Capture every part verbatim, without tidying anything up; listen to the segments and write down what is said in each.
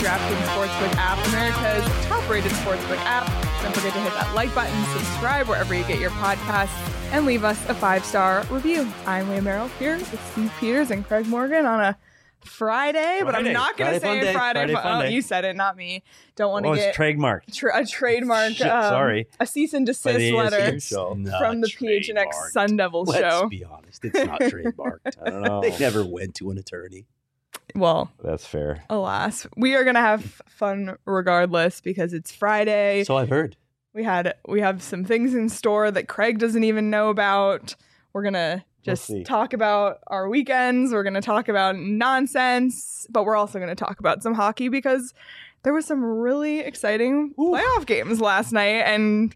DraftKings Sportsbook app, America's top-rated sportsbook app. Don't forget to hit that like button, subscribe wherever you get your podcasts, and leave us a five-star review. I'm Leah Merrill here with Steve Peters and Craig Morgan on a Friday, but Friday. I'm not going to say Friday, Friday. Friday, Friday oh, Friday. you said it, not me. Don't want to oh, get it's trademarked. Tra- a trademark. Shit, um, sorry. A cease and By desist the letter A S U show. from the P H N X trademarked. Sun Devils Let's show. be honest, it's not trademarked. I don't know. They never went to an attorney. Well, That's fair. alas, we are going to have fun regardless because it's Friday. So I've heard. We had we have some things in store that Craig doesn't even know about. We're gonna just We'll see. talk about our weekends. We're gonna talk about nonsense, but we're also gonna talk about some hockey because there was some really exciting Ooh. playoff games last night. And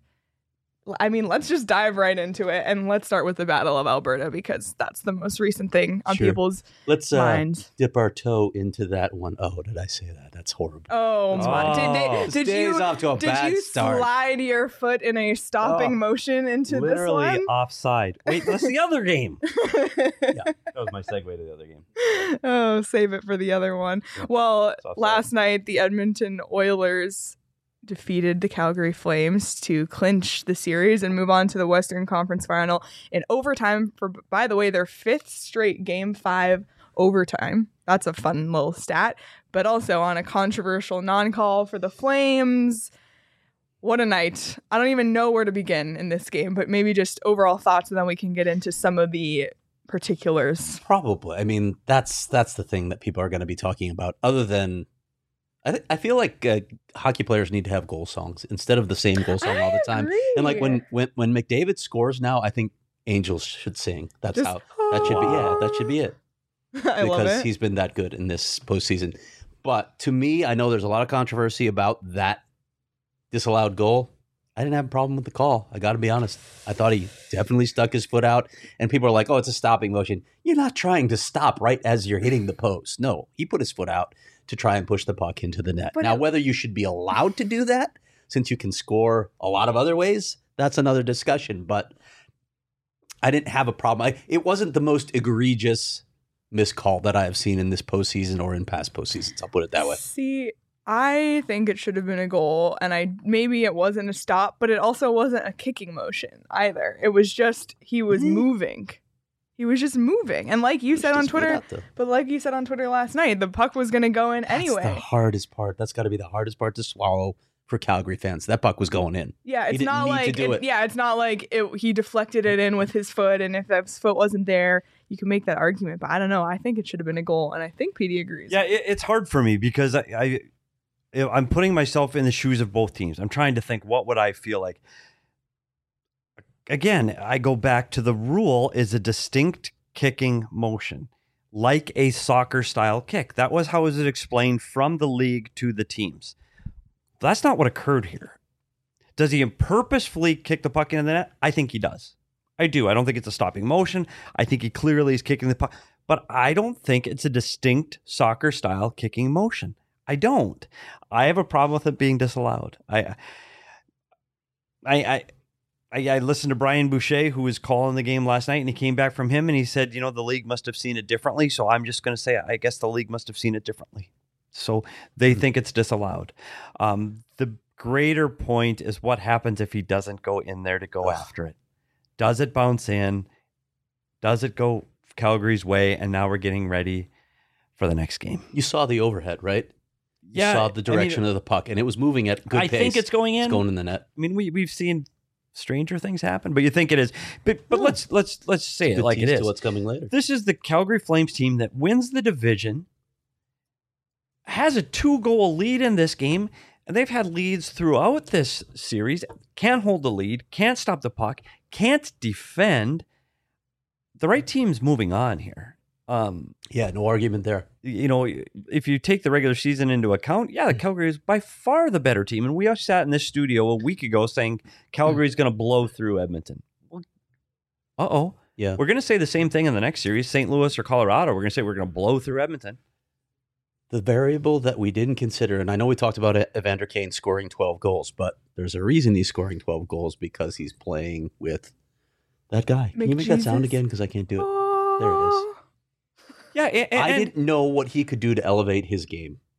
I mean, let's just dive right into it, and let's start with the Battle of Alberta because that's the most recent thing on Sure. people's Let's uh, minds. dip our toe into that one. Oh, did I say that? That's horrible. Oh my! Oh. Did, they, This did day you is off to a did bad you start. slide your foot in a stopping Oh, motion into Literally this one? offside. Wait, that's the other game. Yeah. That was my segue to the other game. Oh, save it for the other one. Yeah, Well, it's offside. last night the Edmonton Oilers defeated the Calgary Flames to clinch the series and move on to the Western Conference Final in overtime for, by the way, their fifth straight Game five overtime. That's a fun little stat. But also on a controversial non-call for the Flames. What a night. I don't even know where to begin in this game, but maybe just overall thoughts, and then we can get into some of the particulars. Probably. I mean, that's that's the thing that people are going to be talking about. Other than, I th- I feel like uh, hockey players need to have goal songs instead of the same goal song all the time. I And like agree. when when when McDavid scores now, I think Angels should sing. That's Just- how that should be. Yeah, that should be it. I love because it. he's been that good in this postseason. But to me, I know there's a lot of controversy about that disallowed goal. I didn't have a problem with the call. I got to be honest. I thought he definitely stuck his foot out. And people are like, oh, it's a stopping motion. You're not trying to stop right as you're hitting the post. No, he put his foot out to try and push the puck into the net. But now, it- whether you should be allowed to do that, since you can score a lot of other ways, that's another discussion. But I didn't have a problem. I, it wasn't the most egregious miscall that I have seen in this postseason or in past postseasons. I'll put it that way. See, I think it should have been a goal, and I maybe it wasn't a stop, but it also wasn't a kicking motion either. It was just he was Mhm. moving. He was just moving, and like you Push said on his foot Twitter, out, though. but like you said on Twitter last night, the puck was going to go in That's anyway. the hardest part. That's got to be the hardest part to swallow for Calgary fans. That puck was going in. Yeah, He it's didn't not need to like do it- it. yeah, it's not like it, he deflected it in with his foot, and if that foot wasn't there, you can make that argument. But I don't know. I think it should have been a goal, and I think P D agrees. Yeah, it, it's hard for me because I, I, I'm putting myself in the shoes of both teams. I'm trying to think, what would I feel like? Again, I go back to the rule is a distinct kicking motion, like a soccer style kick. That was how was it explained from the league to the teams. That's not what occurred here. Does he purposefully kick the puck into the net? I think he does. I do. I don't think it's a stopping motion. I think he clearly is kicking the puck, but I don't think it's a distinct soccer style kicking motion. I don't. I have a problem with it being disallowed. I, I, I, I, I listened to Brian Boucher, who was calling the game last night, and he came back from him and he said, you know, the league must have seen it differently. So I'm just going to say, I guess the league must have seen it differently. So they think it's disallowed. Um, the greater point is what happens if he doesn't go in there to go Ugh. after it. Does it bounce in? Does it go Calgary's way? And now we're getting ready for the next game. You saw the overhead, right? You Yeah, saw the direction I mean, of the puck, and it was moving at good I pace. think it's going in. It's going in the net. I mean, we we've seen stranger things happen, but you think it is. But but No. let's let's let's say it Good like it tease is. to what's coming later. This is the Calgary Flames team that wins the division, has a two-goal lead in this game, and they've had leads throughout this series. Can't hold the lead, can't stop the puck, can't defend. The right team's moving on here. Um, Yeah, no argument there. you know, if you take the regular season into account, yeah, the Calgary is by far the better team. And we all sat in this studio a week ago saying Calgary's going to blow through Edmonton. Well, uh-oh. Yeah. We're going to say the same thing in the next series, Saint Louis or Colorado. We're going to say we're going to blow through Edmonton. The variable that we didn't consider, and I know we talked about Evander Kane scoring twelve goals, but there's a reason he's scoring twelve goals because he's playing with that guy. Can you make that sound McJesus. again? Because I can't do it. There it is. Yeah, and, I and- didn't know what he could do to elevate his game.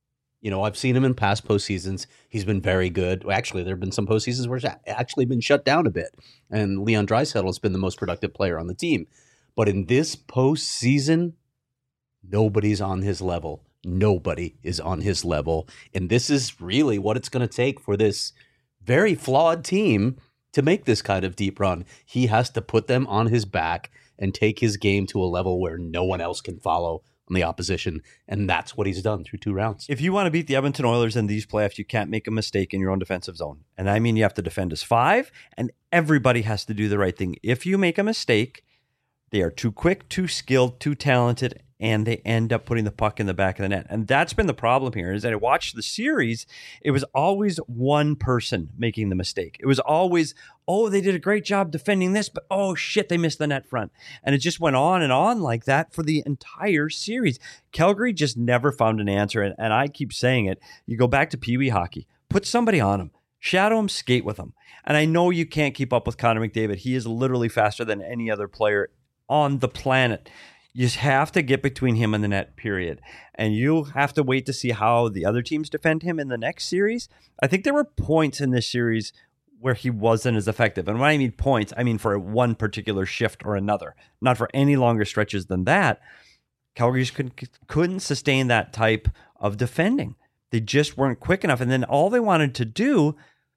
You know, I've seen him in past postseasons. He's been very good. Well, actually, there have been some postseasons where it's actually been shut down a bit. And Leon Draisaitl has been the most productive player on the team. But in this postseason, nobody's on his level. Nobody is on his level. And this is really what it's going to take for this very flawed team to make this kind of deep run. He has to put them on his back and take his game to a level where no one else can follow on the opposition. And that's what he's done through two rounds. If you want to beat the Edmonton Oilers in these playoffs, you can't make a mistake in your own defensive zone. And I mean, you have to defend as five, and everybody has to do the right thing. If you make a mistake, they are too quick, too skilled, too talented, and they end up putting the puck in the back of the net. And that's been the problem here, is that I watched the series, it was always one person making the mistake. It was always, oh, they did a great job defending this, but oh shit, they missed the net front. And it just went on and on like that for the entire series. Calgary just never found an answer. And, and I keep saying it, you go back to Pee Wee hockey, put somebody on him, shadow him, skate with him. And I know you can't keep up with Connor McDavid. He is literally faster than any other player on the planet. You just have to get between him and the net, period. And you'll have to wait to see how the other teams defend him in the next series. I think there were points in this series where he wasn't as effective. And when I mean points, I mean for one particular shift or another, not for any longer stretches than that. Calgary just couldn't, couldn't sustain that type of defending. They just weren't quick enough. And then all they wanted to do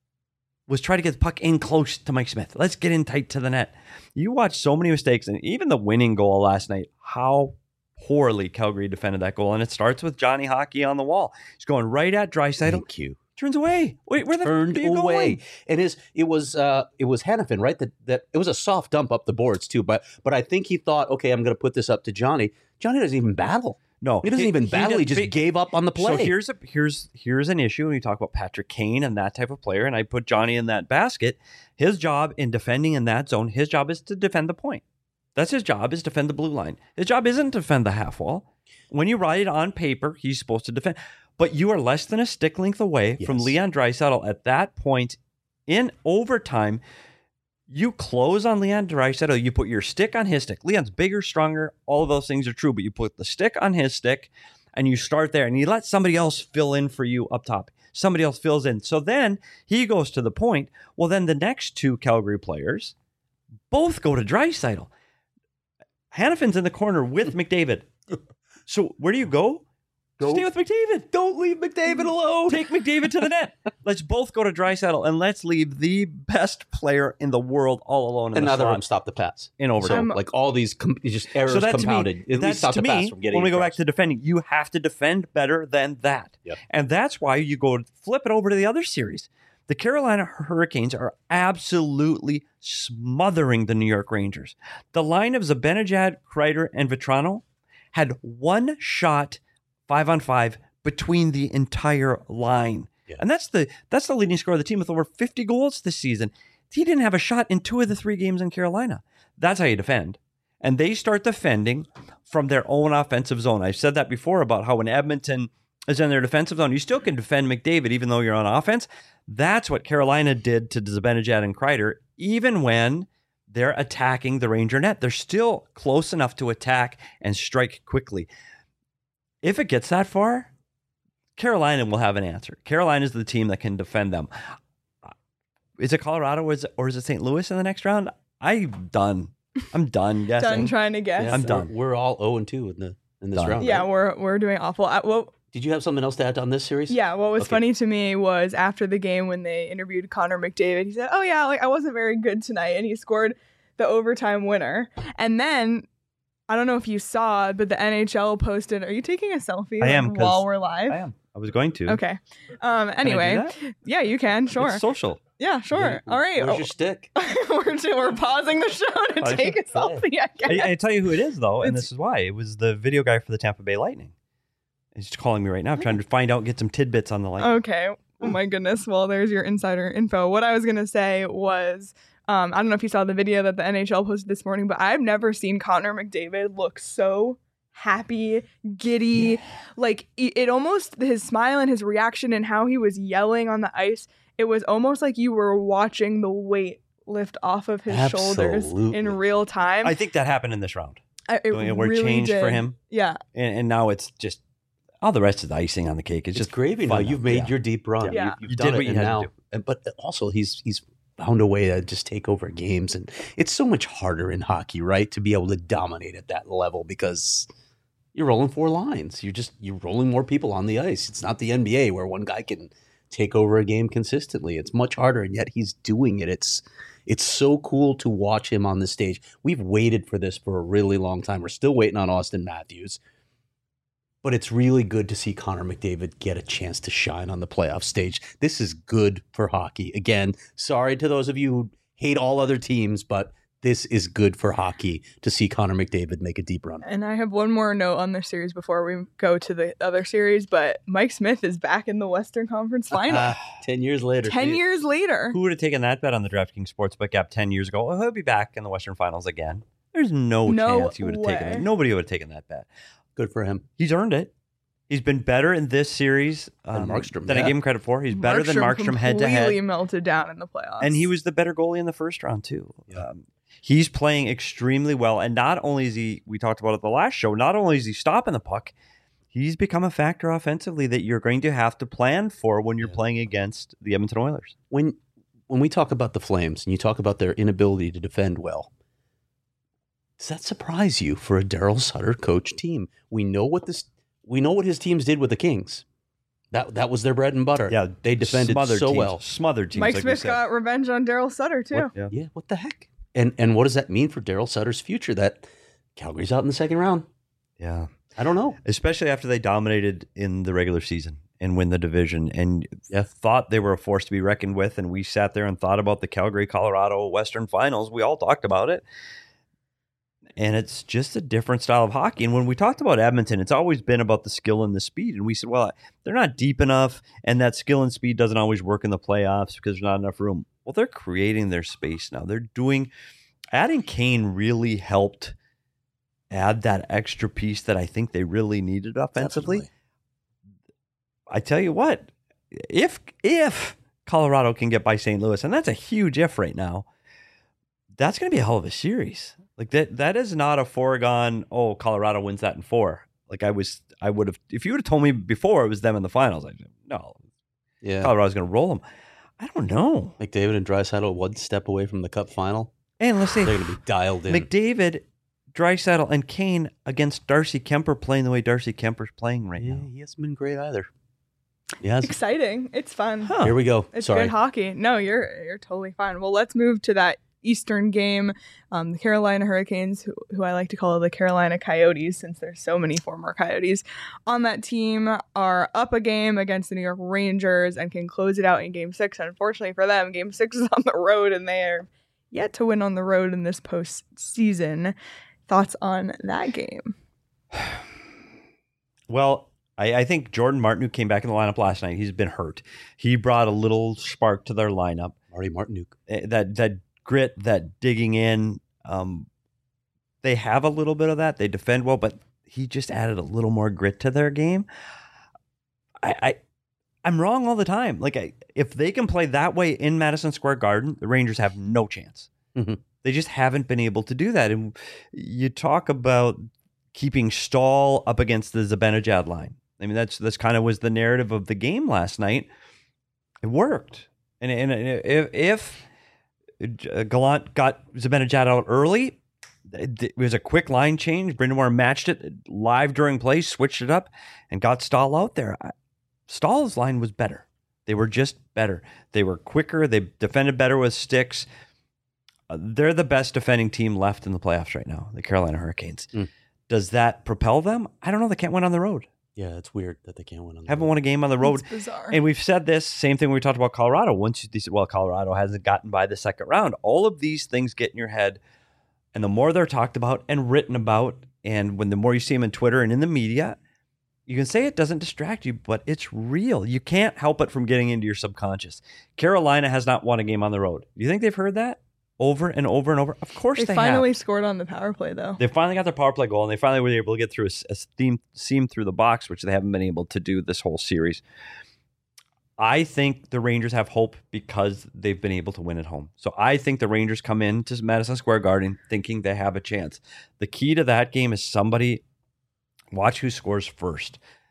was try to get the puck in close to Mike Smith. Let's get in tight to the net. You watch so many mistakes, and even the winning goal last night, how poorly Calgary defended that goal. And it starts with Johnny Hockey on the wall. He's going right at Draisaitl. Thank you. Turns away. Wait, where the Turned f- are you away. going? And his it was uh it was Hanifin, right? That that it was a soft dump up the boards too. But but I think he thought, okay, I'm gonna put this up to Johnny. Johnny doesn't even battle. No, He doesn't even battle. He, does- just but- gave up on the play. So here's a here's here's an issue when you talk about Patrick Kane and that type of player, and I put Johnny in that basket. His job in defending in that zone, his job is to defend the point. That's his job, is defend the blue line. His job isn't to defend the half wall. When you write it on paper, he's supposed to defend. But you are less than a stick length away Yes. from Leon Draisaitl at that point in overtime. You close on Leon Draisaitl. You put your stick on his stick. Leon's bigger, stronger. All of those things are true. But you put the stick on his stick, and you start there, and you let somebody else fill in for you up top. Somebody else fills in. So then he goes to the point. Well, then the next two Calgary players both go to Draisaitl. Hanifin's in the corner with McDavid. So where do you go? Go- Stay with McDavid. Don't leave McDavid alone. Take McDavid to the net. Let's both go to Draisaitl, and let's leave the best player in the world all alone in And the neither of slot them stop the pass. in So overtime. like all these com- just errors So that to compounded. me, At least that's stop to the pass me, from getting when we go back across. to defending, you have to defend better than that. Yep. And that's why you go flip it over to the other series. The Carolina Hurricanes are absolutely smothering the New York Rangers. The line of Zibanejad, Kreider, and Vetrano had one shot five on five between the entire line. Yeah. And that's the that's the leading scorer of the team with over fifty goals this season. He didn't have a shot in two of the three games in Carolina. That's how you defend. And they start defending from their own offensive zone. I've said that before about how when Edmonton is in their defensive zone, you still can defend McDavid even though you're on offense. That's what Carolina did to Zibanejad and Kreider, even when they're attacking the Ranger net. They're still close enough to attack and strike quickly. If it gets that far, Carolina will have an answer. Carolina is the team that can defend them. Is it Colorado or is it, or is it Saint Louis in the next round? I'm done. I'm done guessing. Done trying to guess. Yeah, I'm we're- done. We're all zero and two in the in this Done. round. Yeah, right? we're we're doing awful. Uh, well, Did you have something else to add on this series? yeah. What was Okay. funny to me was after the game when they interviewed Connor McDavid, he said, "Oh yeah, like I wasn't very good tonight," and he scored the overtime winner. And then I don't know if you saw, but the N H L posted, "Are you taking a selfie I am, like, 'cause while we're live?" I am. I was going to. Okay. Um. Can I do Anyway, that? yeah, you can. Sure. It's social. Yeah, sure. Yeah. All right. Where's your stick? we're, we're pausing the show to Oh, take a yeah. selfie. I guess. I, I tell you who it is, though, and It's- this is why. It was the video guy for the Tampa Bay Lightning. He's calling me right now. I'm trying to find out, get some tidbits on the Lightning. Okay. Oh my goodness. Well, there's your insider info. What I was gonna say was, um, I don't know if you saw the video that the N H L posted this morning, but I've never seen Connor McDavid look so happy, giddy. Like it, it almost his smile and his reaction and how he was yelling on the ice. It was almost like you were watching the weight lift off of his shoulders Absolutely. in real time. I think that happened in this round. I, it Doing a word really change did. for him. Yeah. And, and now it's just All the rest is icing on the cake. It's, It's just gravy now. fun You've now. made Yeah. your deep run. Yeah. You, you've You done did it, what you and had to now, do. and- But also, he's he's found a way to just take over games, and it's so much harder in hockey, right, to be able to dominate at that level because you're rolling four lines. You're just you're rolling more people on the ice. It's not the N B A where one guy can take over a game consistently. It's much harder, and yet he's doing it. It's it's so cool to watch him on the stage. We've waited for this for a really long time. We're still waiting on Austin Matthews. But it's really good to see Connor McDavid get a chance to shine on the playoff stage. This is good for hockey. Again, sorry to those of you who hate all other teams, but this is good for hockey to see Connor McDavid make a deep run. And I have one more note on this series before we go to the other series, but Mike Smith is back in the Western Conference Final. Ah, ten years later. Ten years later. Who would have taken that bet on the DraftKings Sportsbook app ten years ago? Well, he'll be back in the Western Finals again. There's no, No chance he would have taken way. it. Nobody would have taken that bet. Good for him. He's earned it. He's been better in this series um, Than Markstrom, than I yeah. gave him credit for. He's better than Markstrom head to completely head. melted down in the playoffs. And he was the better goalie in the first round, too. Yeah. Um, he's playing extremely well. And not only is he, we talked about it the last show, not only is he stopping the puck, he's become a factor offensively that you're going to have to plan for when you're Yeah. playing against the Edmonton Oilers. When when we talk about the Flames and you talk about their inability to defend well, does that surprise you for a Daryl Sutter coach team? We know what this we know what his teams did with the Kings. That that was their bread and butter. Yeah, they defended smothered so teams, well. Smothered teams. Mike like we Smith said. got revenge on Daryl Sutter, too. What- yeah. Yeah, what the heck? And and what does that mean for Daryl Sutter's future? That Calgary's out in the second round. Yeah. I don't know. Especially after they dominated in the regular season and win the division and Yeah. thought they were a force to be reckoned with. And we sat there and thought about the Calgary, Colorado Western Finals. We all talked about it. And it's just a different style of hockey. And when we talked about Edmonton, it's always been about the skill and the speed. And we said, well, they're not deep enough, and that skill and speed doesn't always work in the playoffs because there's not enough room. Well, they're creating their space now. They're doing, adding Kane really helped add that extra piece that I think they really needed offensively. Definitely. I tell you what, if if Colorado can get by Saint Louis, and that's a huge if right now, that's going to be a hell of a series. Like that, that is not a foregone. Oh, Colorado wins that in four. Like I was, I would have. If you would have told me before it was them in the finals, I'd say, no, Yeah. Colorado's going to roll them. I don't know. McDavid and Draisaitl one step away from the Cup final. And let's say They're going to be dialed in. McDavid, Draisaitl, and Kane against Darcy Kemper playing the way Darcy Kemper's playing right yeah, now. he hasn't been great either. He hasn't. Exciting. It's fun. Huh. Here we go. It's Sorry. good hockey. No, you're you're totally fine. Well, let's move to that Eastern game. Um, the Carolina Hurricanes, who, who I like to call the Carolina Coyotes, since there's so many former Coyotes on that team, are up a game against the New York Rangers and can close it out in Game Six. Unfortunately for them, Game Six is on the road, and they are yet to win on the road in this postseason. Thoughts on that game? Well, I, I think Jordan Martin, who came back in the lineup last night, he's been hurt. He brought a little spark to their lineup. Marty Martinuk. Eh, That that grit, that digging in. Um, they have a little bit of that. They defend well, but he just added a little more grit to their game. I, I I'm wrong all the time. Like I, if they can play that way in Madison Square Garden, the Rangers have no chance. Mhm. They just haven't been able to do that. And you talk about keeping Stahl up against the Zibanejad line. I mean, that's that's kind of was the narrative of the game last night. It worked, and and if, if Gallant got Zibanejad out early, it was a quick line change. Brendan Moore matched it live during play, switched it up, and got Stahl out there. Stahl's line was better. They were just better. They were quicker. They defended better with sticks. Uh, they're the best defending team left in the playoffs right now, the Carolina Hurricanes. Mm. Does that propel them? I don't know. They can't win on the road. Yeah, it's weird that they can't win on the Haven't road. won a game on the road. It's bizarre. And we've said this, same thing when we talked about Colorado. Once you said, well, Colorado hasn't gotten by the second round. All of these things get in your head. And the more they're talked about and written about, and when the more you see them in Twitter and in the media, you can say it doesn't distract you, but it's real. You can't help it from getting into your subconscious. Carolina has not won a game on the road. Do you think they've heard that over and over and over? Of course they they, finally have. scored on the power play, though. They finally got their power play goal, and they finally were able to get through a, a seam, seam through the box, which they haven't been able to do this whole series. I think the Rangers have hope because they've been able to win at home. So I think the Rangers come into Madison Square Garden thinking they have a chance. The key to that game is somebody watch who scores first.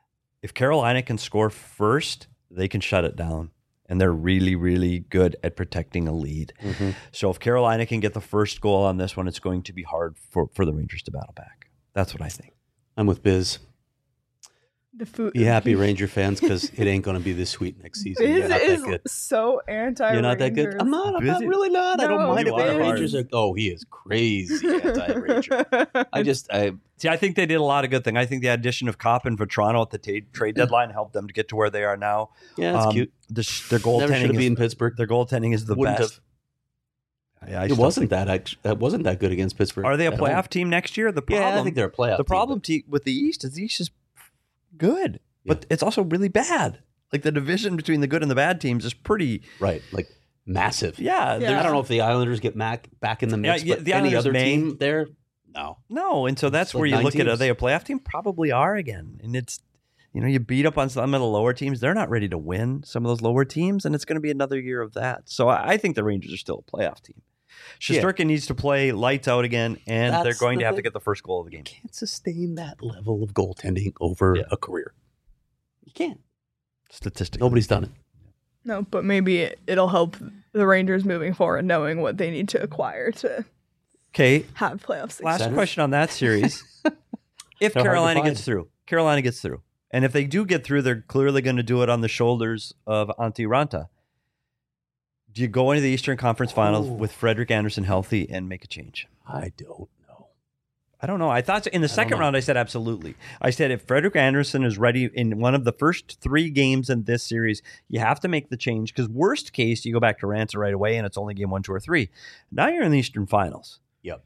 if Carolina can score first, they can shut it down. And they're really, really good at protecting a lead. Mm-hmm. So if Carolina can get the first goal on this one, it's going to be hard for, for the Rangers to battle back. That's what I think. I'm with Biz. The food. Be happy, Ranger fans, because it ain't going to be this sweet next season. You're Biz not is that good. so anti. You're not that good. I'm not. I'm not Busy. really not. I don't No, mind it. you The are. Rangers are. Oh, he is crazy anti-Ranger. I just. I. See, I think they did a lot of good thing. I think the addition of Kopp and Vetrano at the ta- trade deadline helped them to get to where they are now. Yeah, that's Um, cute. The, sh- their Never should goaltending have is, beaten Pittsburgh. their goaltending is the Wouldn't best. Yeah, I It still wasn't think- that. act- That wasn't that good against Pittsburgh. Are they a at playoff home. team next year? The problem, Yeah, I think they're a playoff. the problem te- with the East is the East is good, but it's also really bad. Like the division between the good and the bad teams is pretty. team, right? Like massive. Yeah, Yeah. there's- I don't know if the Islanders get back back in the mix, Yeah, yeah, but the any Islanders other may. team there, no. No, and so that's It's where like you nine look at, are teams. they a playoff team? Probably are again. And it's, you know, you beat up on some of the lower teams. They're not ready to win some of those lower teams, and it's going to be another year of that. So I I think the Rangers are still a playoff team. Yeah. Shesterkin needs to play lights out again, and That's they're going the to have to thing. get the first goal of the game. Can't sustain that level of goaltending over Yeah. a career. You can't. Statistically. Nobody's done it. No, but maybe it, it'll help the Rangers moving forward, knowing what they need to acquire to Okay, have playoff success. last Centers? question on that series. If They're hard to Carolina find. gets through, Carolina gets through. And if they do get through, they're clearly going to do it on the shoulders of Antti Ranta. Do you go into the Eastern Conference Finals Oh. with Frederick Anderson healthy and make a change? I don't know. I don't know. I thought in the don't second know. round, I said absolutely. I said if Frederick Anderson is ready in one of the first three games in this series, you have to make the change because worst case, you go back to Ranta right away and it's only game one, two, or three. Now you're in the Eastern Finals. Yep.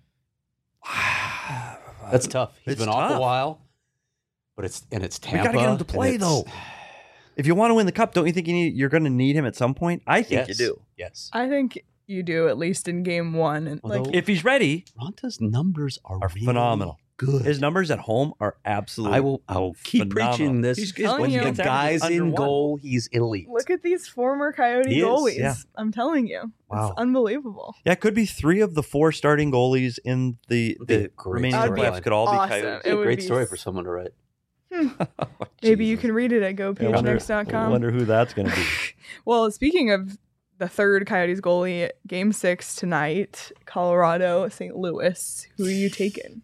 That's tough. He's It's been off tough. a while, but it's and it's We Tampa. got to get him to and play it's- though. If you want to win the cup, don't you think you need, you're going to need him at some point? I think Yes. you do. Yes. I think you do, at least in game one. And like, Although- If he's ready, Ronta's numbers are, are really phenomenal. good. His numbers at home are absolutely. I will. I will keep phenomenal. preaching this. He's- he's- when you, the it's guy's under in one. goal, he's elite. look at these former Coyote He is, goalies. yeah. I'm telling you. Wow. It's unbelievable. Yeah, it could be three of the four starting goalies in the, Would be a the great remaining storyline. playoffs could all Awesome. be Coyotes. It's a It would great be story s- for someone to write. Maybe you Jesus. can read it at go I page wonder, next dot I com. wonder who that's going to be. Well, speaking of the third Coyotes goalie, game six tonight, Colorado, Saint Louis. Who are you taking?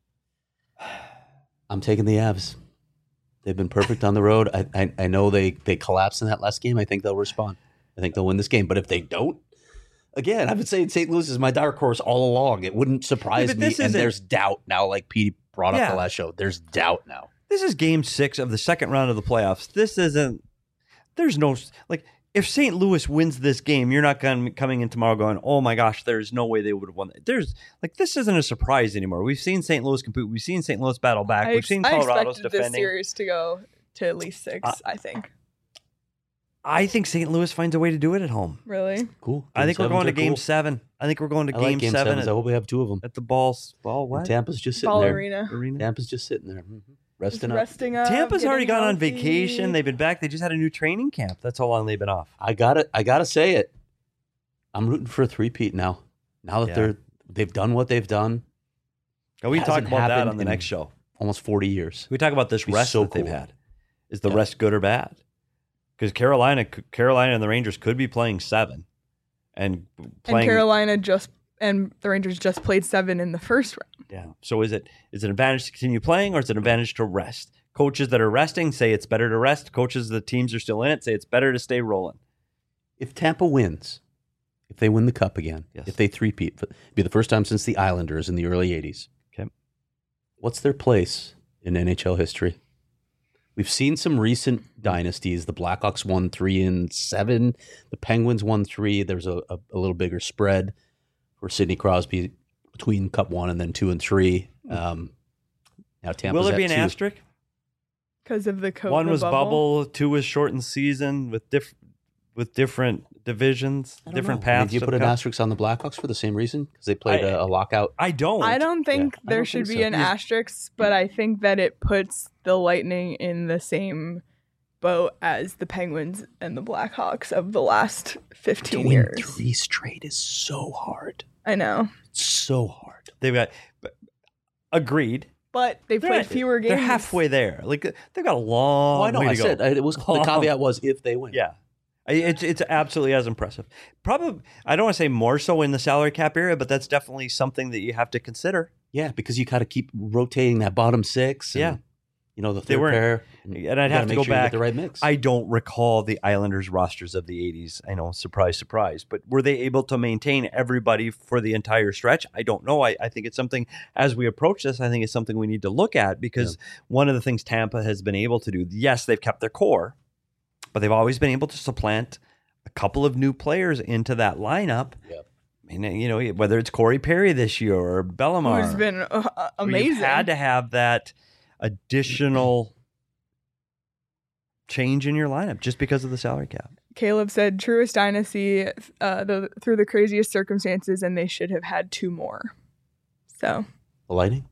I'm taking the Avs. They've been perfect on the road. I, I I know they they collapsed in that last game. I think they'll respond. I think they'll win this game. But if they don't, again, I've been saying Saint Louis is my dark horse all along. It wouldn't surprise but me. this And isn't- there's doubt now, like Pete brought up Yeah. the last show. There's doubt now. This is game six of the second round of the playoffs. This isn't, there's no, like, if Saint Louis wins this game, you're not going coming in tomorrow going, oh my gosh, there's no way they would have won. There's, like, this isn't a surprise anymore. We've seen Saint Louis compete. We've seen Saint Louis battle back. I, We've ex- seen I Colorado's expected this defending. series to go to at least six, Uh, I think. I think Saint Louis finds a way to do it at home. Really? Cool. I think we're Game going to sevens are game cool. seven. I think we're going to I game, like game seven sevens. I at, hope we have two of them. at the balls. Ball what? Tampa's just sitting Ball there. arena. Arena. Tampa's just sitting there, mhm. Just resting up. resting up. Tampa's already getting gone on healthy. vacation. They've been back. They just had a new training camp. That's how long they've been off. I got to I got to say it. I'm rooting for a three-peat now. Now that Yeah. they're they've done what they've done, And we Hasn't talk about that happened on the in- next show. almost forty years. We talk about this Be rest so that they've cool. had. Is the Yeah. rest good or bad? Because Carolina, Carolina and the Rangers could be playing seven, and And playing. Carolina just and the Rangers just played seven in the first round. Yeah. So is it is it an advantage to continue playing, or is it an advantage to rest? Coaches that are resting say it's better to rest. Coaches the teams are still in it say it's better to stay rolling. If Tampa wins, if they win the cup again, Yes. if they three-peat, it'd be the first time since the Islanders in the early eighties. Okay. What's their place in N H L history? We've seen some recent dynasties. The Blackhawks won three and seven. The Penguins won three. There's a, a, a little bigger spread for Sidney Crosby between Cup one and then two and three. Um, now Tampa's Will there at be an two. asterisk? Because of the coat. One the was bubble. two was shortened season with diff- with different divisions, I don't different know. I mean, paths. do you to put the an cup. asterisk? asterisk on the Blackhawks for the same reason? Because they played I- a a lockout. I don't. I don't think Yeah. I there don't should think be so. an Because- asterisk, but I think that it puts the Lightning in the same boat as the Penguins and the Blackhawks of the last To fifteen win years. three straight is so hard. I know. So hard. They've got but- agreed. but they They're- played fewer games. They're halfway there. Like they've got a long Well, I know. way to I go. said it was the Long. caveat was if they win. Yeah. I- It's it's absolutely as impressive. Probably, I don't want to say more so in the salary cap area, but that's definitely something that you have to consider. Yeah, because you got to keep rotating that bottom six. And, Yeah. you know the They third weren't- pair. And you I'd gotta have to make go sure you get back. the right mix. I don't recall the Islanders rosters of the eighties. I know, surprise, surprise. But were they able to maintain everybody for the entire stretch? I don't know. I, I think it's something, as we approach this, I think it's something we need to look at because one of the things Tampa has been able to do, yes, they've kept their core, but they've always been able to supplant a couple of new players into that lineup. Yep. I mean, you know, whether it's Corey Perry this year or Bellemare. Who's been uh, where amazing. You've had to have that additional change in your lineup just because of the salary cap. Caleb said truest dynasty uh, the, through the craziest circumstances, and they should have had two more. So the Lightning.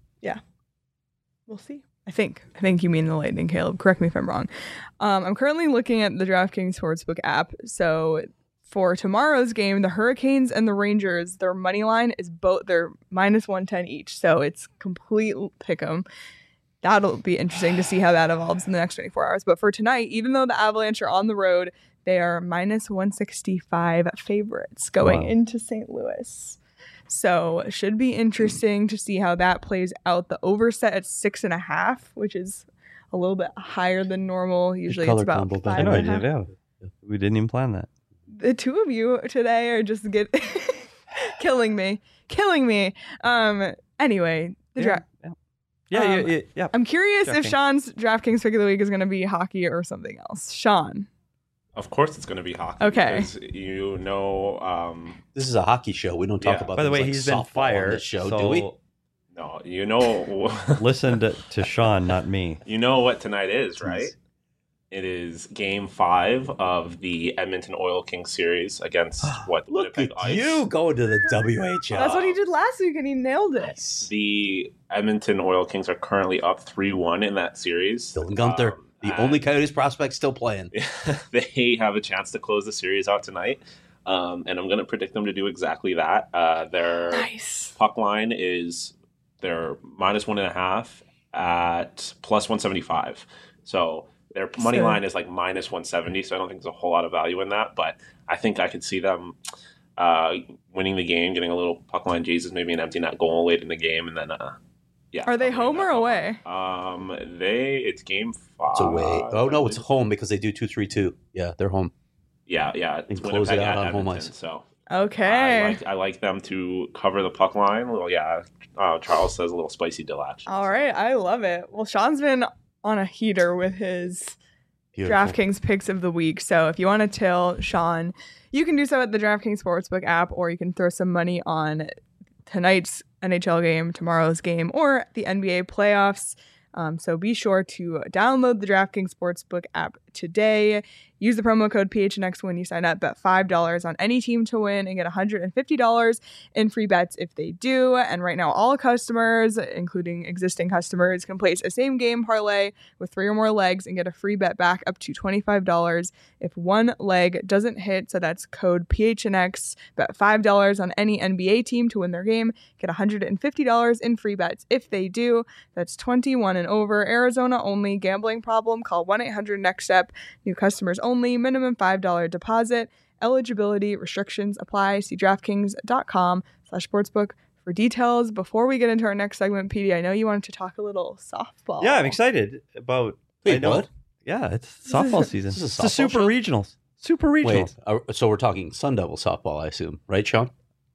we'll see. I think. I think you mean the Lightning, Caleb. Correct me if I'm wrong. Um, I'm currently looking at the DraftKings Sportsbook app. So for tomorrow's game, the Hurricanes and the Rangers, their money line is both they're minus one ten each. So it's complete pick'em. That'll be interesting to see how that evolves in the next twenty-four hours. But for tonight, even though the Avalanche are on the road, they are minus one sixty-five favorites going Wow. into Saint Louis. So it should be interesting to see how that plays out. The over set at six and a half, which is a little bit higher than normal. Usually it's color about combo, five I know, and a half. yeah. We didn't even plan that. The two of you today are just get killing me, killing me. Um. Anyway, the Yeah, draft. yeah. Yeah, Um, yeah, yeah, yeah. I'm curious if DraftKings. Sean's DraftKings pick of the week is going to be hockey or something else. Sean. Of course, it's going to be hockey. Okay. Because you know, um, This is a hockey show. We don't talk Yeah. about. By the things way, like he's been softball on fired. this show, so do we? no, you know, listen to, to Sean, not me. you know what tonight is, Jeez. right? It is Game Five of the Edmonton Oil Kings series against what Look Winnipeg at Ice. you going to the W H L. That's what he did last week, and he nailed it. Nice. The Edmonton Oil Kings are currently up three one in that series. Dylan Gunther, Um, the and only Coyotes prospect still playing. they have a chance to close the series out tonight, um, and I'm going to predict them to do exactly that. Uh, their Nice. puck line is they're minus one and a half at plus one seventy-five. So their money So- line is like minus one seventy. So I don't think there's a whole lot of value in that, but I think I could see them uh, winning the game, getting a little puck line Jesus, maybe an empty net goal late in the game, and then uh, yeah. Are they winning home that or puck away? line. Um, they it's game five. It's away. Oh no, it's home because they do two three two. Yeah, they're home. Yeah, yeah. And It's close it Winnipeg out at on home Edmonton, ice. So Okay. I like I like them to cover the puck line. Well, yeah. Uh, Charles says a little spicy dill action. All right. I love it. Well, Sean's been on a heater with his Beautiful. DraftKings picks of the week. So if you want to tell Sean, you can do so at the DraftKings Sportsbook app, or you can throw some money on tonight's N H L game, tomorrow's game, or the N B A playoffs. Um, so be sure to download the DraftKings Sportsbook app today. Use the promo code P H N X when you sign up. Bet five dollars on any team to win and get one hundred fifty dollars in free bets if they do. And right now, all customers, including existing customers, can place a same game parlay with three or more legs and get a free bet back up to twenty-five dollars if one leg doesn't hit. So that's code P H N X. Bet five dollars on any N B A team to win their game. Get one hundred fifty dollars in free bets if they do. That's twenty-one and over. Arizona only. Gambling problem? Call one eight hundred next step. New customers only. Minimum five dollars deposit. Eligibility restrictions apply. See DraftKings.com slash sportsbook for details. Before we get into our next segment, P D, I know you wanted to talk a little softball. Yeah, I'm excited about. I Wait, know- what? Yeah, it's is- softball season. this is a it's the softball Super show? Regionals. Super Regionals. Wait, uh, so we're talking Sun Devil softball, I assume, right, Sean?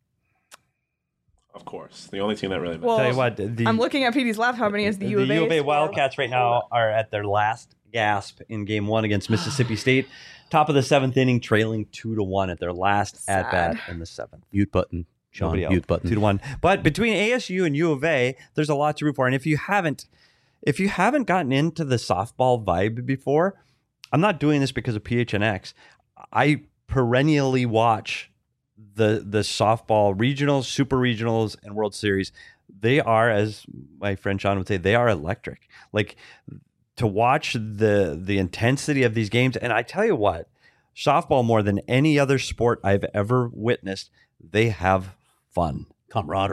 Of course, the only team that really matters. Well, Tell you what, the, I'm looking at P D's laptop and he has the, the U of A. U of A score. Wildcats right now are at their last gasp in Game One against Mississippi State. Top of the seventh inning, trailing two to one at their last Sad. at bat in the seventh. Mute button, Sean. Nobody else. Mute button. Two to one. But between A S U and U of A, there's a lot to root for. And if you haven't, if you haven't gotten into the softball vibe before, I'm not doing this because of P H N X. I perennially watch the the softball regionals, super regionals, and World Series. They are, as my friend Sean would say, they are electric. Like to watch the the intensity of these games. And I tell you what, softball more than any other sport I've ever witnessed, they have fun. Camaraderie.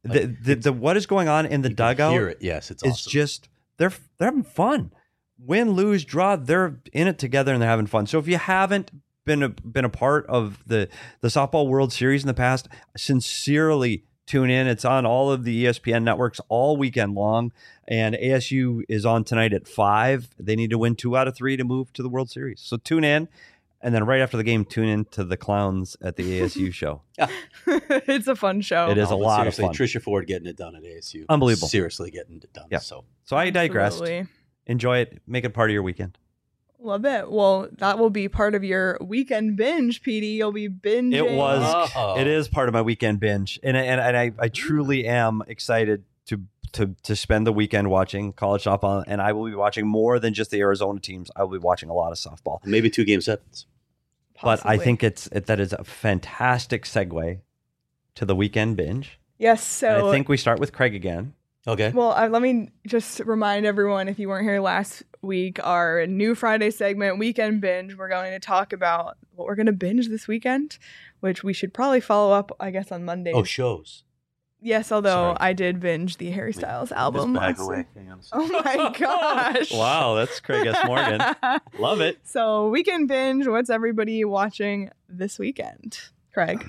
the, the, the what is going on in the You can dugout hear it. Yes, it's is awesome. just they're they're having fun. Win, lose, draw, they're in it together and they're having fun. So if you haven't been a, been a part of the the softball World Series in the past, sincerely tune in. It's on all of the E S P N networks all weekend long, and A S U is on tonight at five. They need to win two out of three to move to the World Series. So tune in. And then right after the game, tune in to the clowns at the A S U show. It's a fun show. It is No, a but lot of seriously, fun. Trisha Ford getting it done at A S U. Unbelievable. Seriously getting it done. Yeah. So So I digressed. Absolutely. Enjoy it. Make it part of your weekend. Love it. Well, that will be part of your weekend binge, P D. You'll be binging. It was. Oh. It is part of my weekend binge, and and, and I, I truly am excited to to to spend the weekend watching college softball, and I will be watching more than just the Arizona teams. I will be watching a lot of softball. maybe two game sevens. But I Possibly. think it's it, that is a fantastic segue to the weekend binge. Yes. And So I think we start with Craig again. Okay. Well, uh, let me just remind everyone, if you weren't here last week, our new Friday segment, Weekend Binge, we're going to talk about what we're going to binge this weekend, which we should probably follow up, I guess, on Monday. oh, shows. Yes, although Sorry. I did binge the Harry Styles album. This bag last away. week. Hang on a Oh second. my gosh. Wow, that's Craig S. Morgan. Love it. So, Weekend Binge, what's everybody watching this weekend? Craig.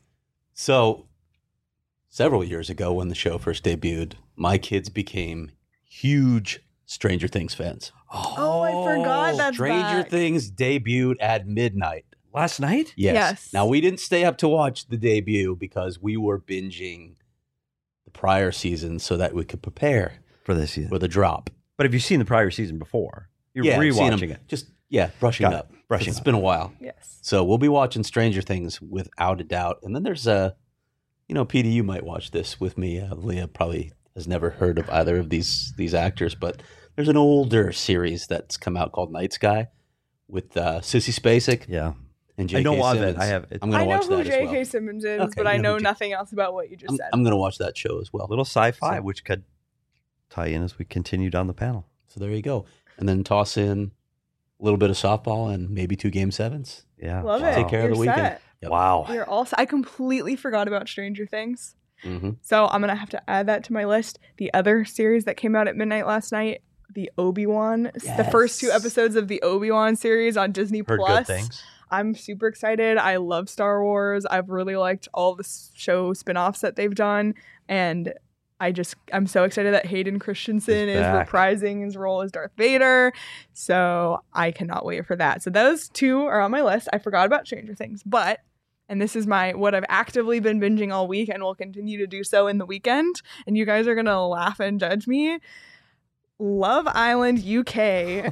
So, several years ago when the show first debuted, my kids became huge Stranger Things fans. Oh, I forgot that's Stranger back. Things debuted at midnight. Last night? Yes. Yes. Now, we didn't stay up to watch the debut because we were binging the prior season so that we could prepare For this season. for the drop. But have you seen the prior season before? You're yeah, I've seen 'em. rewatching it. Just, yeah, brushing Got it. up. Brushing It's up. been a while. Yes. So we'll be watching Stranger Things without a doubt. And then there's a, you know, P D, you might watch this with me. Uh, Leah probably has never heard of either of these these actors, but there's an older series that's come out called Night Sky with uh, Sissy Spacek Yeah. and J K I know of it. Simmons. I have it. I'm going I to know watch who that J as K. well. Simmons is, Okay, but I you know know who J- nothing else about what you just I'm, said. I'm going to watch that show as well. A little sci-fi, So- which could tie in as we continue down the panel. So there you go. And then toss in a little bit of softball and maybe two game sevens. Yeah. Love wow. it. Take care of You're the weekend. set. Yep. Wow. You're all set. I completely forgot about Stranger Things. hmm So I'm going to have to add that to my list. The other series that came out at midnight last night, the Obi-Wan, the first two Yes. episodes of the Obi-Wan series on Disney Heard Plus. good things. I'm super excited. I love Star Wars. I've really liked all the s- show spin-offs that they've done. And I just, I'm so excited that Hayden Christensen He's is back. reprising his role as Darth Vader. So I cannot wait for that. So those two are on my list. I forgot about Stranger Things, but, and this is my, what I've actively been binging all week and will continue to do so in the weekend. And you guys are going to laugh and judge me. Love Island U K.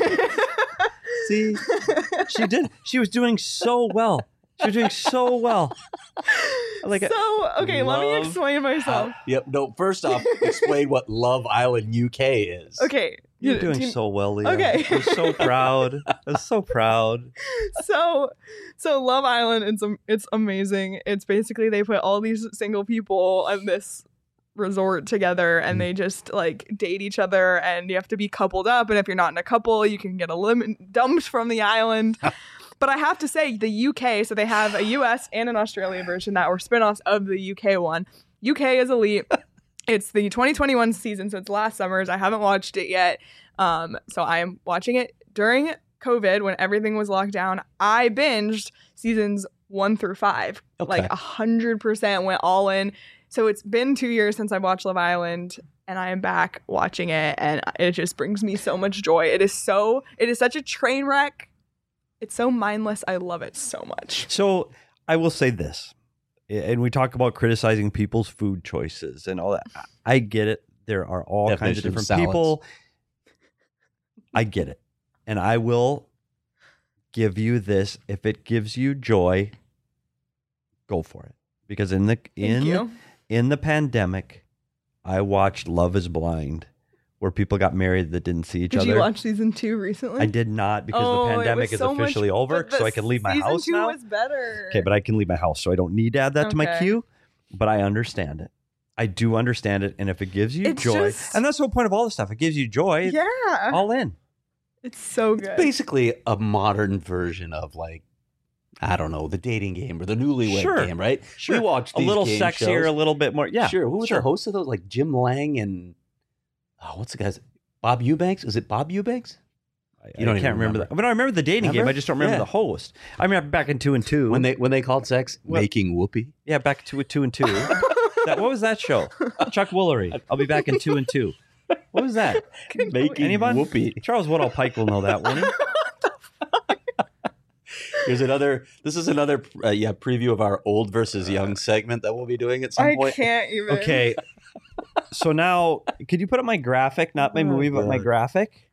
See, she did. She was doing so well. She was doing so well. Like a- so okay, let me Love explain myself. Yep. No, first off, explain what Love Island U K is. Okay, You're you- doing do you- so well, Leah. Okay. I was so proud. I was so proud. so so Love Island. It's am- it's amazing. It's basically they put all these single people in this resort together and they just like date each other and you have to be coupled up, and if you're not in a couple you can get a lim- dumped from the island. But I have to say the U K, so they have a U S and an Australia version that were spin-offs of the U K one. U K is elite. It's the twenty twenty-one season, so it's last summer's. I haven't watched it yet. Um, so I am watching it during COVID when everything was locked down. I binged seasons one through five. Okay. Like a hundred percent went all in. So it's been two years since I watched Love Island, and I am back watching it, and it just brings me so much joy. It is so, it is such a train wreck. It's so mindless. I love it so much. So I will say this, and we talk about criticizing people's food choices and all that. I get it. There are all kinds of Definition of different salads. people. I get it. And I will give you this. If it gives you joy, go for it. Because in the Thank in you. in the pandemic, I watched Love is Blind, where people got married that didn't see each Did other. you watch season two recently? I did not, because Oh, the it pandemic was is so much- officially over, but the so I can leave my season house two now. was better. Okay, but I can leave my house, so I don't need to add that to my Okay. queue. But I understand it. I do understand it, and if it gives you It's joy, just- and that's the whole point of all this stuff. It gives you joy. yeah, All in. it's so good. It's basically a modern version of like I don't know, the dating game or the newlywed Sure. game, right? Sure. We watched a these little game sexier, shows. a little bit more. Yeah, Sure. Who was sure. the host of those? Like Jim Lang and oh, what's the guy's Bob Eubanks? Is it Bob Eubanks? I, You don't I even can't remember remember. that. But I remember the dating Remember? game. I just don't remember Yeah. the host. I remember back in two and two. When they when they called sex What? making whoopee. yeah, back to two and two. that, what was that show? Chuck Woolery. I'll be back in two and two. What was that? Making Anyone? whoopee. Charles Woodall Pike will know that, won't he? Here's another. This is another uh, yeah preview of our old versus young segment that we'll be doing at some I point. can't even. Okay. So now, could you put up my graphic? Not my Oh, movie, but my God. graphic.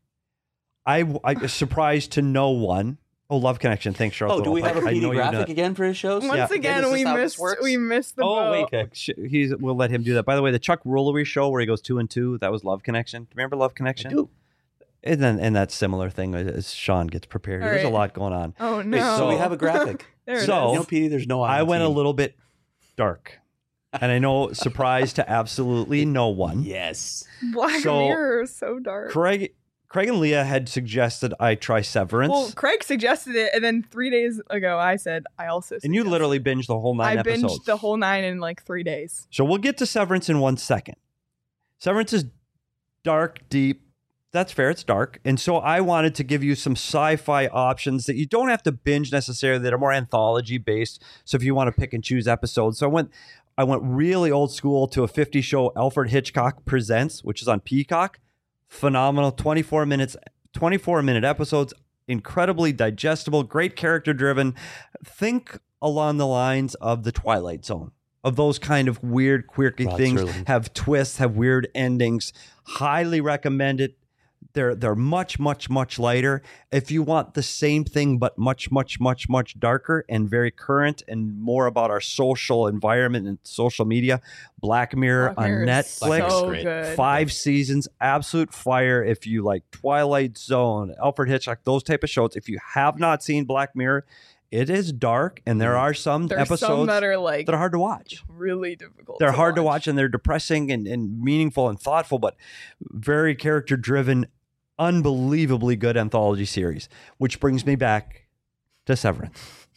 I I was surprised to no one. Oh, Love Connection. Thanks, Charles. Oh, do Woodall we have a Pike. I P D know you know graphic that. again for his shows? Once Yeah. again, This is we how this missed works? we missed the Oh boat. wait, okay. Sh- he's we'll let him do that. By the way, the Chuck Woolery show where he goes two and two, that was Love Connection. Remember Love I Connection? do. And then and that similar thing as Sean gets prepared. All There's a right. lot going on. Oh Wait, no! so we have a graphic. there it So- You is. know, P D, there's no. I went a team. little bit dark, and I know surprise to absolutely no one. Yes. Black so- Mirror is so dark. Craig, Craig and Leah had suggested I try Severance, Well, Craig suggested it, and then three days ago, I said I also. and you suggested literally it. binged the whole nine I episodes. binged the whole nine in like three days. So we'll get to Severance in one second. Severance is dark, deep. That's fair. It's dark. And so I wanted to give you some sci-fi options that you don't have to binge necessarily, that are more anthology based. So if you want to pick and choose episodes. So I went I went really old school to a fifties show, Alfred Hitchcock Presents, which is on Peacock. Phenomenal. twenty-four minutes, twenty-four minute episodes, incredibly digestible, great character driven. Think along the lines of The Twilight Zone, of those kind of weird, quirky Rod things, Serling. have twists, have weird endings. Highly recommend it. They're they're much, much, much lighter. If you want the same thing, but much, much, much, much darker and very current and more about our social environment and social media, Black Mirror Black Mirror on is Netflix. so Great. good. Five seasons, absolute fire. If you like Twilight Zone, Alfred Hitchcock, those type of shows. If you have not seen Black Mirror, it is dark, and there are some There's episodes some that are like that are hard to watch. really difficult. They're hard to watch, and they're depressing and, and meaningful and thoughtful, but very character driven, unbelievably good anthology series. Which brings me back to Severance.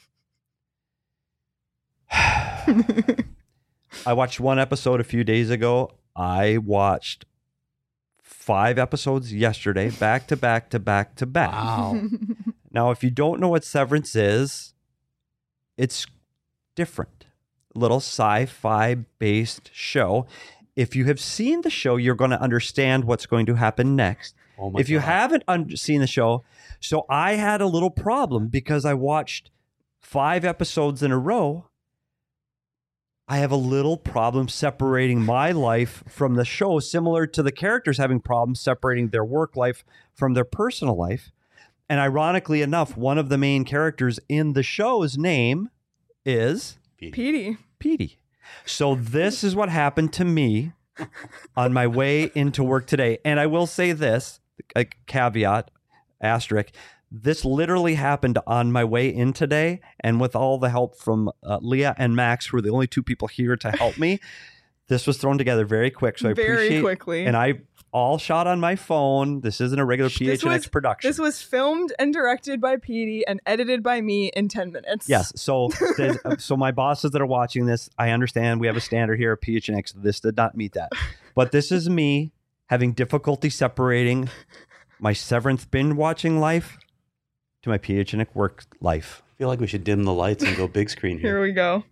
I watched one episode a few days ago. I watched five episodes yesterday, back to back to back to back. Wow. Now, if you don't know what Severance is, it's different. A little sci-fi based show. If you have seen the show, you're going to understand what's going to happen next. Oh my If you God. haven't un- seen the show, so I had a little problem because I watched five episodes in a row. I have a little problem separating my life from the show, similar to the characters having problems separating their work life from their personal life. And ironically enough, one of the main characters in the show's name is Petey. Petey. So this is what happened to me on my way into work today. And I will say this, a caveat, asterisk, this literally happened on my way in today. And with all the help from uh, Leah and Max, who are the only two people here to help me, this was thrown together very quick. So I Very appreciate quickly. And I all shot on my phone. This isn't a regular P H N X was- production. This was filmed and directed by Petey and edited by me in ten minutes. Yes. So, there's- uh, so my bosses that are watching this, I understand we have a standard here at P H N X. This did not meet that, but this is me having difficulty separating my Severance binge watching life to my P H N X work life. I feel like we should dim the lights and go big screen Here here. we go.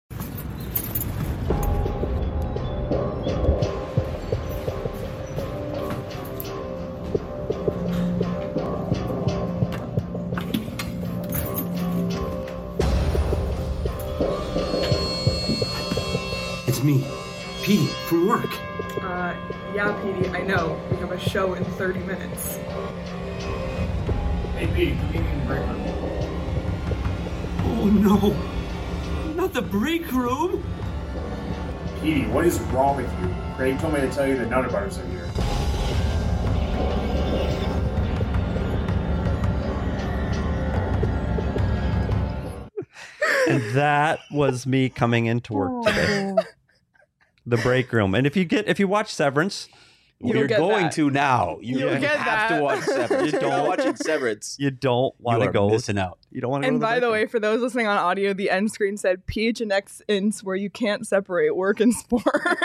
It's me, Petey, from work. Uh, yeah, Petey, I know. We have a show in thirty minutes. Hey, Petey, come meet me in the break room. Oh no, not the break room. Petey, what is wrong with you? Craig told me to tell you that Nutter Butters are here. And that was me coming into work today. The break room. And if you get if you watch Severance, You'll We're get going that. to now. You You'll get have that. to watch Severance. You If you're not don't. watching Severance. You don't want You to are go. missing out. You don't want to go. And to by the, the way, for those listening on audio, the end screen said P H N X ints where you can't separate work and sports.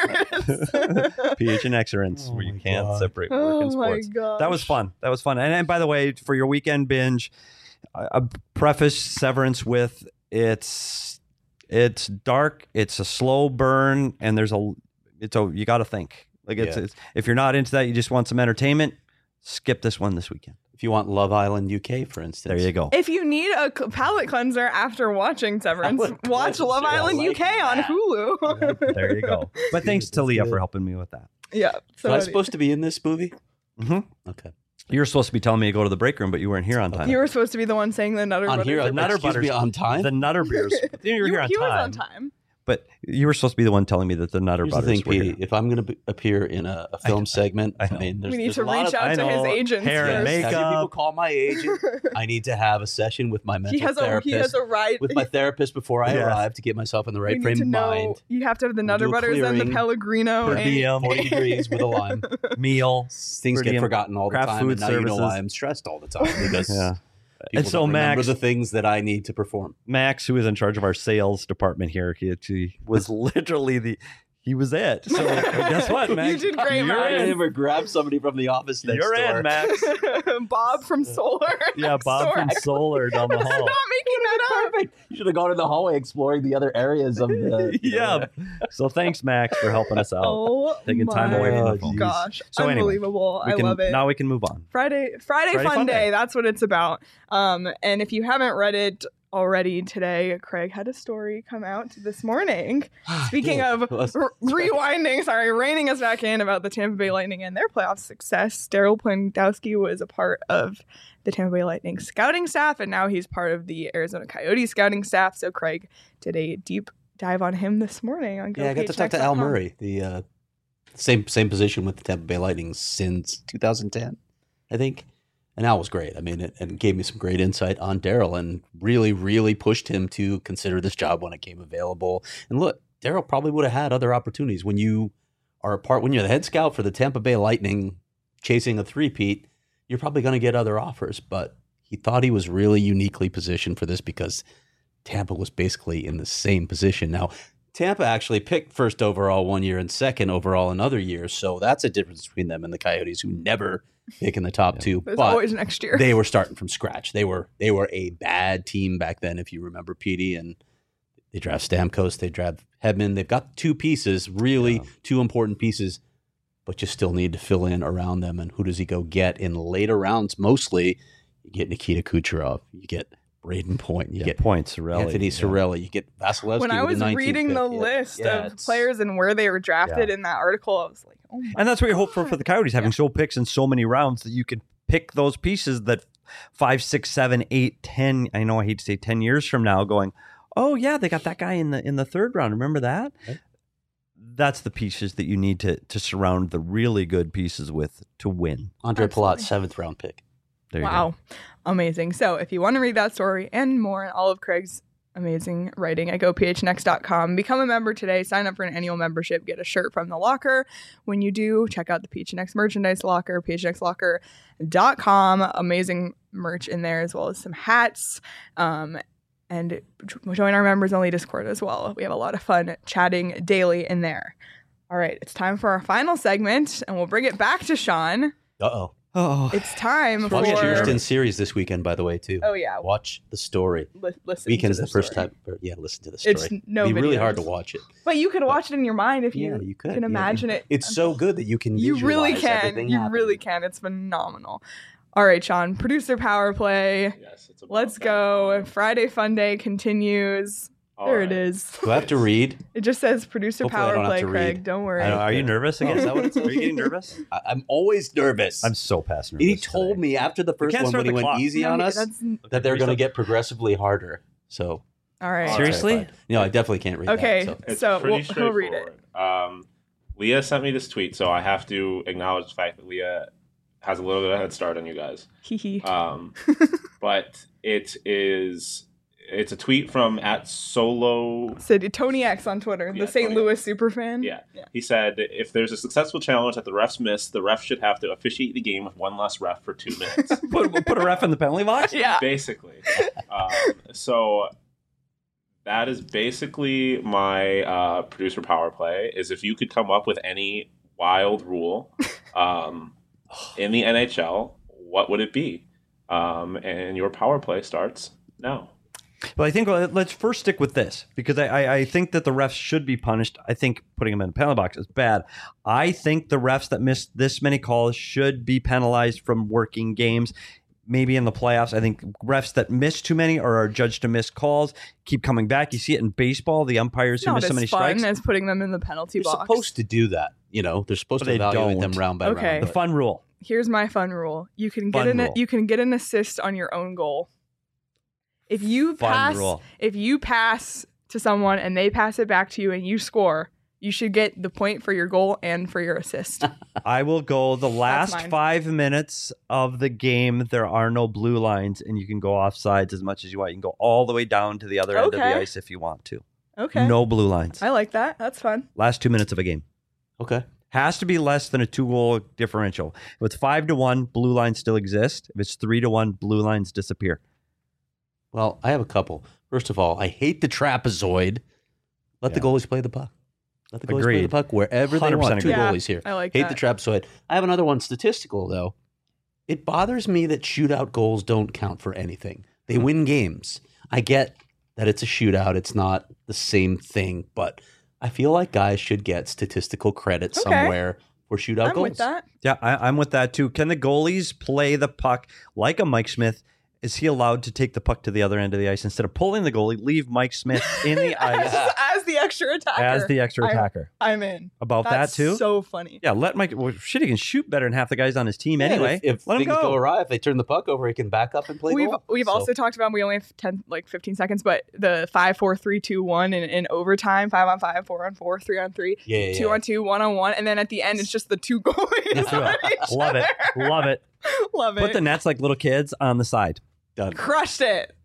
P H N X rinse Oh where you my can't God. separate work Oh and my sports. god. That was fun. That was fun. And, and by the way, for your weekend binge, I, I preface Severance with it's it's dark, it's a slow burn, and there's a it's a you got to think. Like it's, Yeah. it's if you're not into that, you just want some entertainment. Skip this one this weekend. If you want Love Island U K, for instance. There you go. If you need a c- palate cleanser after watching Severance, Palate watch cleanser, Love I Island like U K on that. Hulu. There you go. But thanks to That's Leah good. for helping me with that. yeah. So Was I any- supposed to be in this movie? hmm Okay. You were supposed to be telling me to go to the break room, but you weren't here on time. you were supposed to be the one saying the Nutter On Butters. here, are on Nutter Nutter Butters. Butters. on time? The Nutter Beers. You were You- here on he time. was on time. But you were supposed to be the one telling me that the Nutter Here's the Butters thing, were here. Petey. If I'm going to appear in a, a film segment, I I, know. mean, there's, We need there's to a lot reach of, out I to his know. agents. Hair and first. Have you makeup. people call my agent? I need to have a session with my mental He has a therapist. he has a right. with my therapist before I Yes. arrive to get myself in the we right need frame to of know. mind. You have to have the We'll Nutter do a Butters and the clearing Pellegrino. per and- diem, forty degrees with a lime. meal. Things Per get diem, forgotten all the craft time, food and now you know services. why I'm stressed all the time because Yeah. people And so don't remember Max- the things that I need to perform. Max, who is in charge of our sales department here, he, he was literally the he was it. So guess what, Max? You did great, You're Max. I in. ever grab somebody from the office next You're door. in, Max. Bob from Solar. Yeah, next Bob door. from Solar down the I'm hall. not making that up. Perfect. You should have gone in the hallway exploring the other areas of the. you know, Yeah. So thanks, Max, for helping us out. Oh, Taking time my away from the phone. gosh, So anyway, unbelievable! We I can, love it. Now we can move on. Friday, Friday, Friday fun, Fun day. Day. That's what it's about. Um, and if you haven't read it already today, Craig had a story come out this morning. Speaking Yeah. of Let's- r- rewinding, sorry, reining us back in about the Tampa Bay Lightning and their playoff success. Daryl Plandowski was a part of the Tampa Bay Lightning scouting staff, and now he's part of the Arizona Coyotes scouting staff. So Craig did a deep dive on him this morning on Yeah, I got to talk to Al GoPHX dot com. Murray, the uh, same same position with the Tampa Bay Lightning since two thousand ten, I think. And Al was great. I mean, it, and gave me some great insight on Daryl and really, really pushed him to consider this job when it came available. And look, Daryl probably would have had other opportunities when you are a part, when you're the head scout for the Tampa Bay Lightning chasing a three-peat, you're probably going to get other offers. But he thought he was really uniquely positioned for this because Tampa was basically in the same position. Now, Tampa actually picked first overall one year and second overall another year. So that's a difference between them and the Coyotes, who never pick in the top two. There's But always next year. they were starting from scratch. They were they were a bad team back then, if you remember, Petey. And they draft Stamkos, they draft Hedman. They've got two pieces, really Yeah. two important pieces, but you still need to fill in around them. And who does he go get in later rounds? Mostly, you get Nikita Kucherov, you get Braden Point, you Yeah, get points, Sorelli. Anthony yeah. Cirelli, you get Vasilevsky. when I with was the nineteenth reading pick. the Yeah. list Yeah, of it's- players and where they were drafted in that article, I was like, oh my And that's what you hope for for the Coyotes, having Yeah. so picks in so many rounds that you can pick those pieces that five, six, seven, eight, ten. I know I hate to say ten years from now, going, oh yeah, they got that guy in the in the third round. Remember that? Right. That's the pieces that you need to to surround the really good pieces with to win. Andre Palat, Absolutely. seventh round pick. There you wow, amazing. So if you want to read that story and more and all of Craig's amazing writing at go p h n x dot com, become a member today, sign up for an annual membership, get a shirt from the locker. When you do, check out the P H N X merchandise locker, p h n x locker dot com. Amazing merch in there, as well as some hats. Um, and join our members only Discord as well. We have a lot of fun chatting daily in there. All right, it's time for our final segment, and we'll bring it back to Sean. Uh oh. go. Oh, It's time Watch for. Houston series this weekend, by the way, too. Oh yeah, Watch the story. Li- listen. Weekend's to the first story. time. Or, yeah, listen to the story. It's no It'd be really videos. hard to watch it. But you could watch it in your mind if you, Yeah, you could. can yeah. imagine it. It's so good that you can. You really visualize can. everything You happening. really can. It's phenomenal. All right, Sean. Producer power play. Yes, it's about Let's that. go. Friday Fun Day continues. All there right. it is. Do I have to read? It just says producer Hopefully I power don't have play, to Craig. read. Don't worry. I know, are you nervous Oh, again? is that what it says? Are you getting nervous? I, I'm always nervous. I'm so past nervous. he told today. me after the first can't one start when he the went clock. easy No, on us that's- that they're going to get progressively harder. So all right. All Seriously? terrified. No, I definitely can't read Okay. that. So. It's So, pretty we'll- he'll read straightforward. Um, Leah sent me this tweet, so I have to acknowledge the fact that Leah has a little bit of a head start on you guys. Hee hee. Um, but it is it's a tweet from at Solo. Said Tony X on Twitter, Yeah, the Saint Tony Louis X. superfan. Yeah. He said, if there's a successful challenge that the refs miss, the ref should have to officiate the game with one less ref for two minutes. put, put a ref in the penalty box? Yeah. Basically. Um, so that is basically my uh, producer power play, is if you could come up with any wild rule um, in the N H L, what would it be? Um, and your power play starts now. But I think uh, let's first stick with this, because I, I, I think that the refs should be punished. I think putting them in a penalty box is bad. I think the refs that miss this many calls should be penalized from working games. Maybe in the playoffs, I think refs that miss too many or are judged to miss calls keep coming back. You see it in baseball, the umpires who Not miss so as many fun strikes. as putting them in the penalty They're box. supposed to do that. You know, they're supposed But to they evaluate don't. them round by Okay. round. The fun rule. Here's my fun rule: you can get Fun an rule. you can get an assist on your own goal. If you Fun pass, rule. if you pass to someone and they pass it back to you and you score, you should get the point for your goal and for your assist. I will go the last mine. five minutes of the game. There are no blue lines, and you can go off sides as much as you want. You can go all the way down to the other end of Okay. the ice if you want to. Okay, No blue lines. I like that. That's fun. Last two minutes of a game. Okay. Has to be less than a two-goal differential. If it's five to one, blue lines still exist. If it's three to one, blue lines disappear. Well, I have a couple. First of all, I hate the trapezoid. Let the Yeah. goalies play the puck. Let the goalies play Agreed. the puck wherever they one hundred percent want. Two agree. Yeah, goalies here. I like Hate that. the trapezoid. I have another one statistical, though. It bothers me that shootout goals don't count for anything. They win games. I get that it's a shootout. It's not the same thing, but I feel like guys should get statistical credit Okay. somewhere for shootout I'm goals. with that. Yeah, I, I'm with that too. Can the goalies play the puck like a Mike Smith? Is he allowed to take the puck to the other end of the ice instead of pulling the goalie, leave Mike Smith in the as, ice as the extra attacker. as the extra I- attacker? I'm in. About That's that too? so funny. Yeah, let Mike. Well, shit, he can shoot better than half the guys on his team Yeah, anyway. If, if let him things go. go awry, if they turn the puck over, he can back up and play We've goal. we've So- also talked about, we only have ten like fifteen seconds, but the five four three two one in, in overtime, five on five, four on four, three on three, yeah, yeah, two on two, one on one, and then at the end it's just the two goalies. Let's do on it. each Love it. other. Love it. Love it. Put the nets like little kids on the side. Done. Crushed it.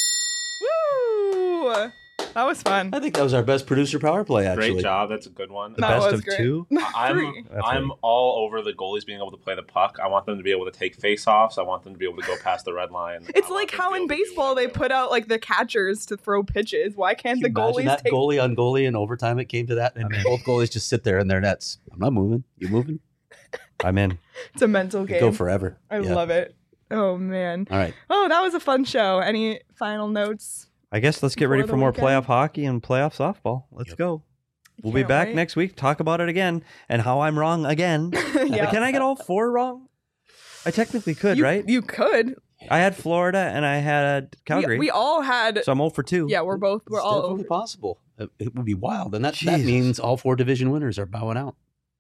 Woo! That was fun. I think that was our best producer power play, actually. Great job. That's a good one. The That best was of great. two. I'm Three. That's I'm right. all over the goalies being able to play the puck. I want them to be able to take face-offs. I want them to be able to go past the red line. It's I want like them to how be in able to do baseball they whatever put out like the catchers to throw pitches. Why can't the Can you imagine goalies that take? goalie on goalie in overtime? It came to that, and both goalies just sit there in their nets. I'm not moving. You moving? I'm in. It's a mental game. Go forever. I Yeah. love it. Oh man. All right. Oh, that was a fun show. Any final notes? I guess let's get Before ready the for more weekend? playoff hockey and playoff softball. Let's Yep. go. We'll be Can't back wait. next week. Talk about it again and how I'm wrong again. Yeah. Can I get all four wrong? I technically could, you, right? You could. I had Florida and I had Calgary. We, we all had. so I'm zero for two. Yeah, we're both. We're It's all definitely over. possible. It, it would be wild, and that, that Jesus. means all four division winners are bowing out.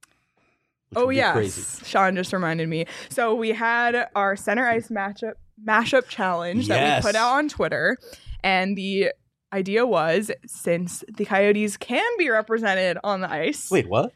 which Oh would be yes, crazy. Sean just reminded me. So we had our center ice matchup mashup challenge that Yes. we put out on Twitter, and the idea was, since the Coyotes can be represented on the ice. Wait, what?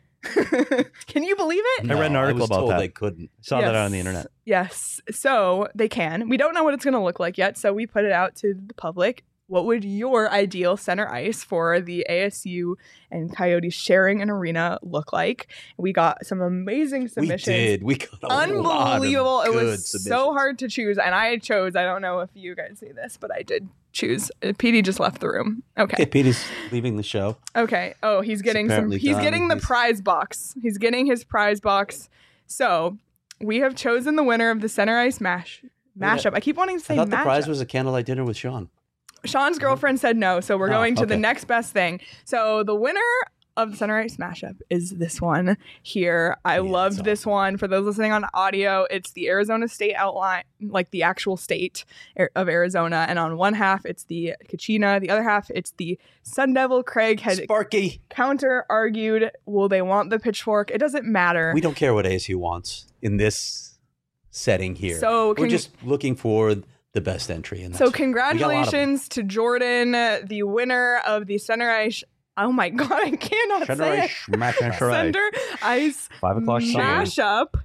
Can you believe it? I read an No, article was about told that. They couldn't. Saw that Yes. on the internet. Yes. So they can. We don't know what it's going to look like yet, so we put it out to the public. What would your ideal center ice for the A S U and Coyotes sharing an arena look like? We got some amazing submissions. We did. We got a lot of Unbelievable. It good was so submissions. hard to choose. And I chose, I don't know if you guys see this, but I did choose. Uh, P D just left the room. Okay, Okay. Petey's leaving the show. Okay. Oh, he's getting some, apparently he's done. getting the He's- prize box. He's getting his prize box. So we have chosen the winner of the center ice mash mashup. I keep wanting to say I thought the prize mashup. was a candlelight dinner with Sean. Sean's girlfriend said no, so we're Oh, going to the okay. next best thing. So the winner of the center ice mashup is this one here. I Yeah, loved it's this one. For those listening on audio, it's the Arizona State outline, like the actual state of Arizona, and on one half it's the Kachina, the other half it's the Sun Devil. Craig had Sparky. counter argued, will they want the pitchfork? It doesn't matter. We don't care what A S U wants in this setting here. So we're con- just looking for the best entry. And So that's- we got a lot of them. congratulations to Jordan, the winner of the center ice. Oh my god, I cannot say it. Smash, smash, smash. Center ice Five o'clock Sunday. mashup.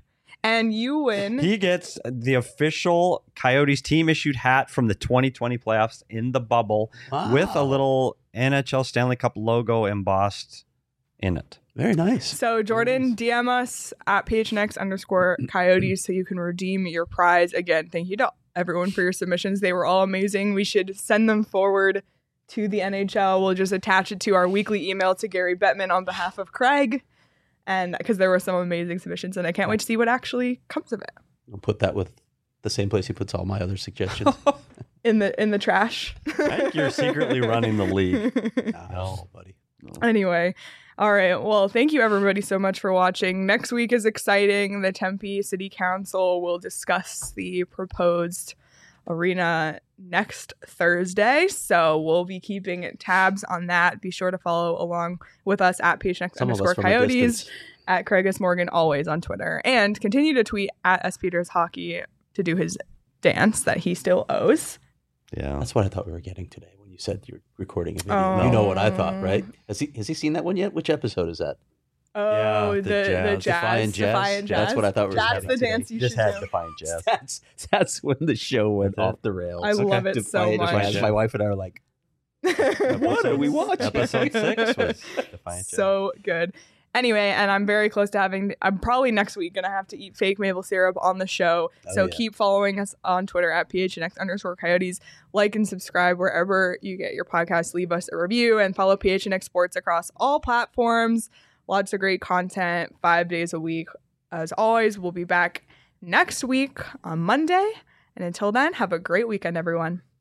And you win. He gets the official Coyotes team issued hat from the twenty twenty playoffs in the bubble Wow. with a little N H L Stanley Cup logo embossed in it. Very nice. So Jordan, D M us at P H N X underscore Coyotes so you can redeem your prize. Again, thank you to everyone for your submissions. They were all amazing. We should send them forward to the N H L. We'll just attach it to our weekly email to Gary Bettman on behalf of Craig. And because there were some amazing submissions, and I can't wait to see what actually comes of it. I'll put that with the same place he puts all my other suggestions. In the in the trash. I think you're secretly running the league. No, buddy. Anyway, all right. Well, thank you everybody so much for watching. Next week is exciting. The Tempe City Council will discuss the proposed arena next Thursday. So we'll be keeping tabs on that. Be sure to follow along with us at P H N X Some of us underscore from a Coyotes, distance. at Craigus Morgan, always on Twitter. And continue to tweet at S. Peters Hockey to do his dance that he still owes. Yeah. That's what I thought we were getting today when you said you're recording a video. Oh. You know what I thought, right? Has he has he seen that one yet? Which episode is that? Oh, Yeah, the, the the jazz. jazz. Defiant Jazz? Defiant That's Jazz. what I thought we were That's having the today. dance you just should had do. Defiant Jazz. That's that's when the show went That's it. off the rails. I love it so Defiant much. Jazz. My wife and I are like, what are we watching? Episode six was Defiant Jazz. So good. Anyway, and I'm very close to having, I'm probably next week going to have to eat fake maple syrup on the show. Oh, so yeah. keep following us on Twitter at P H N X underscore Coyotes. Like and subscribe wherever you get your podcast. Leave us a review and follow P H N X Sports across all platforms. Lots of great content, five days a week. As always, we'll be back next week on Monday. And until then, have a great weekend, everyone.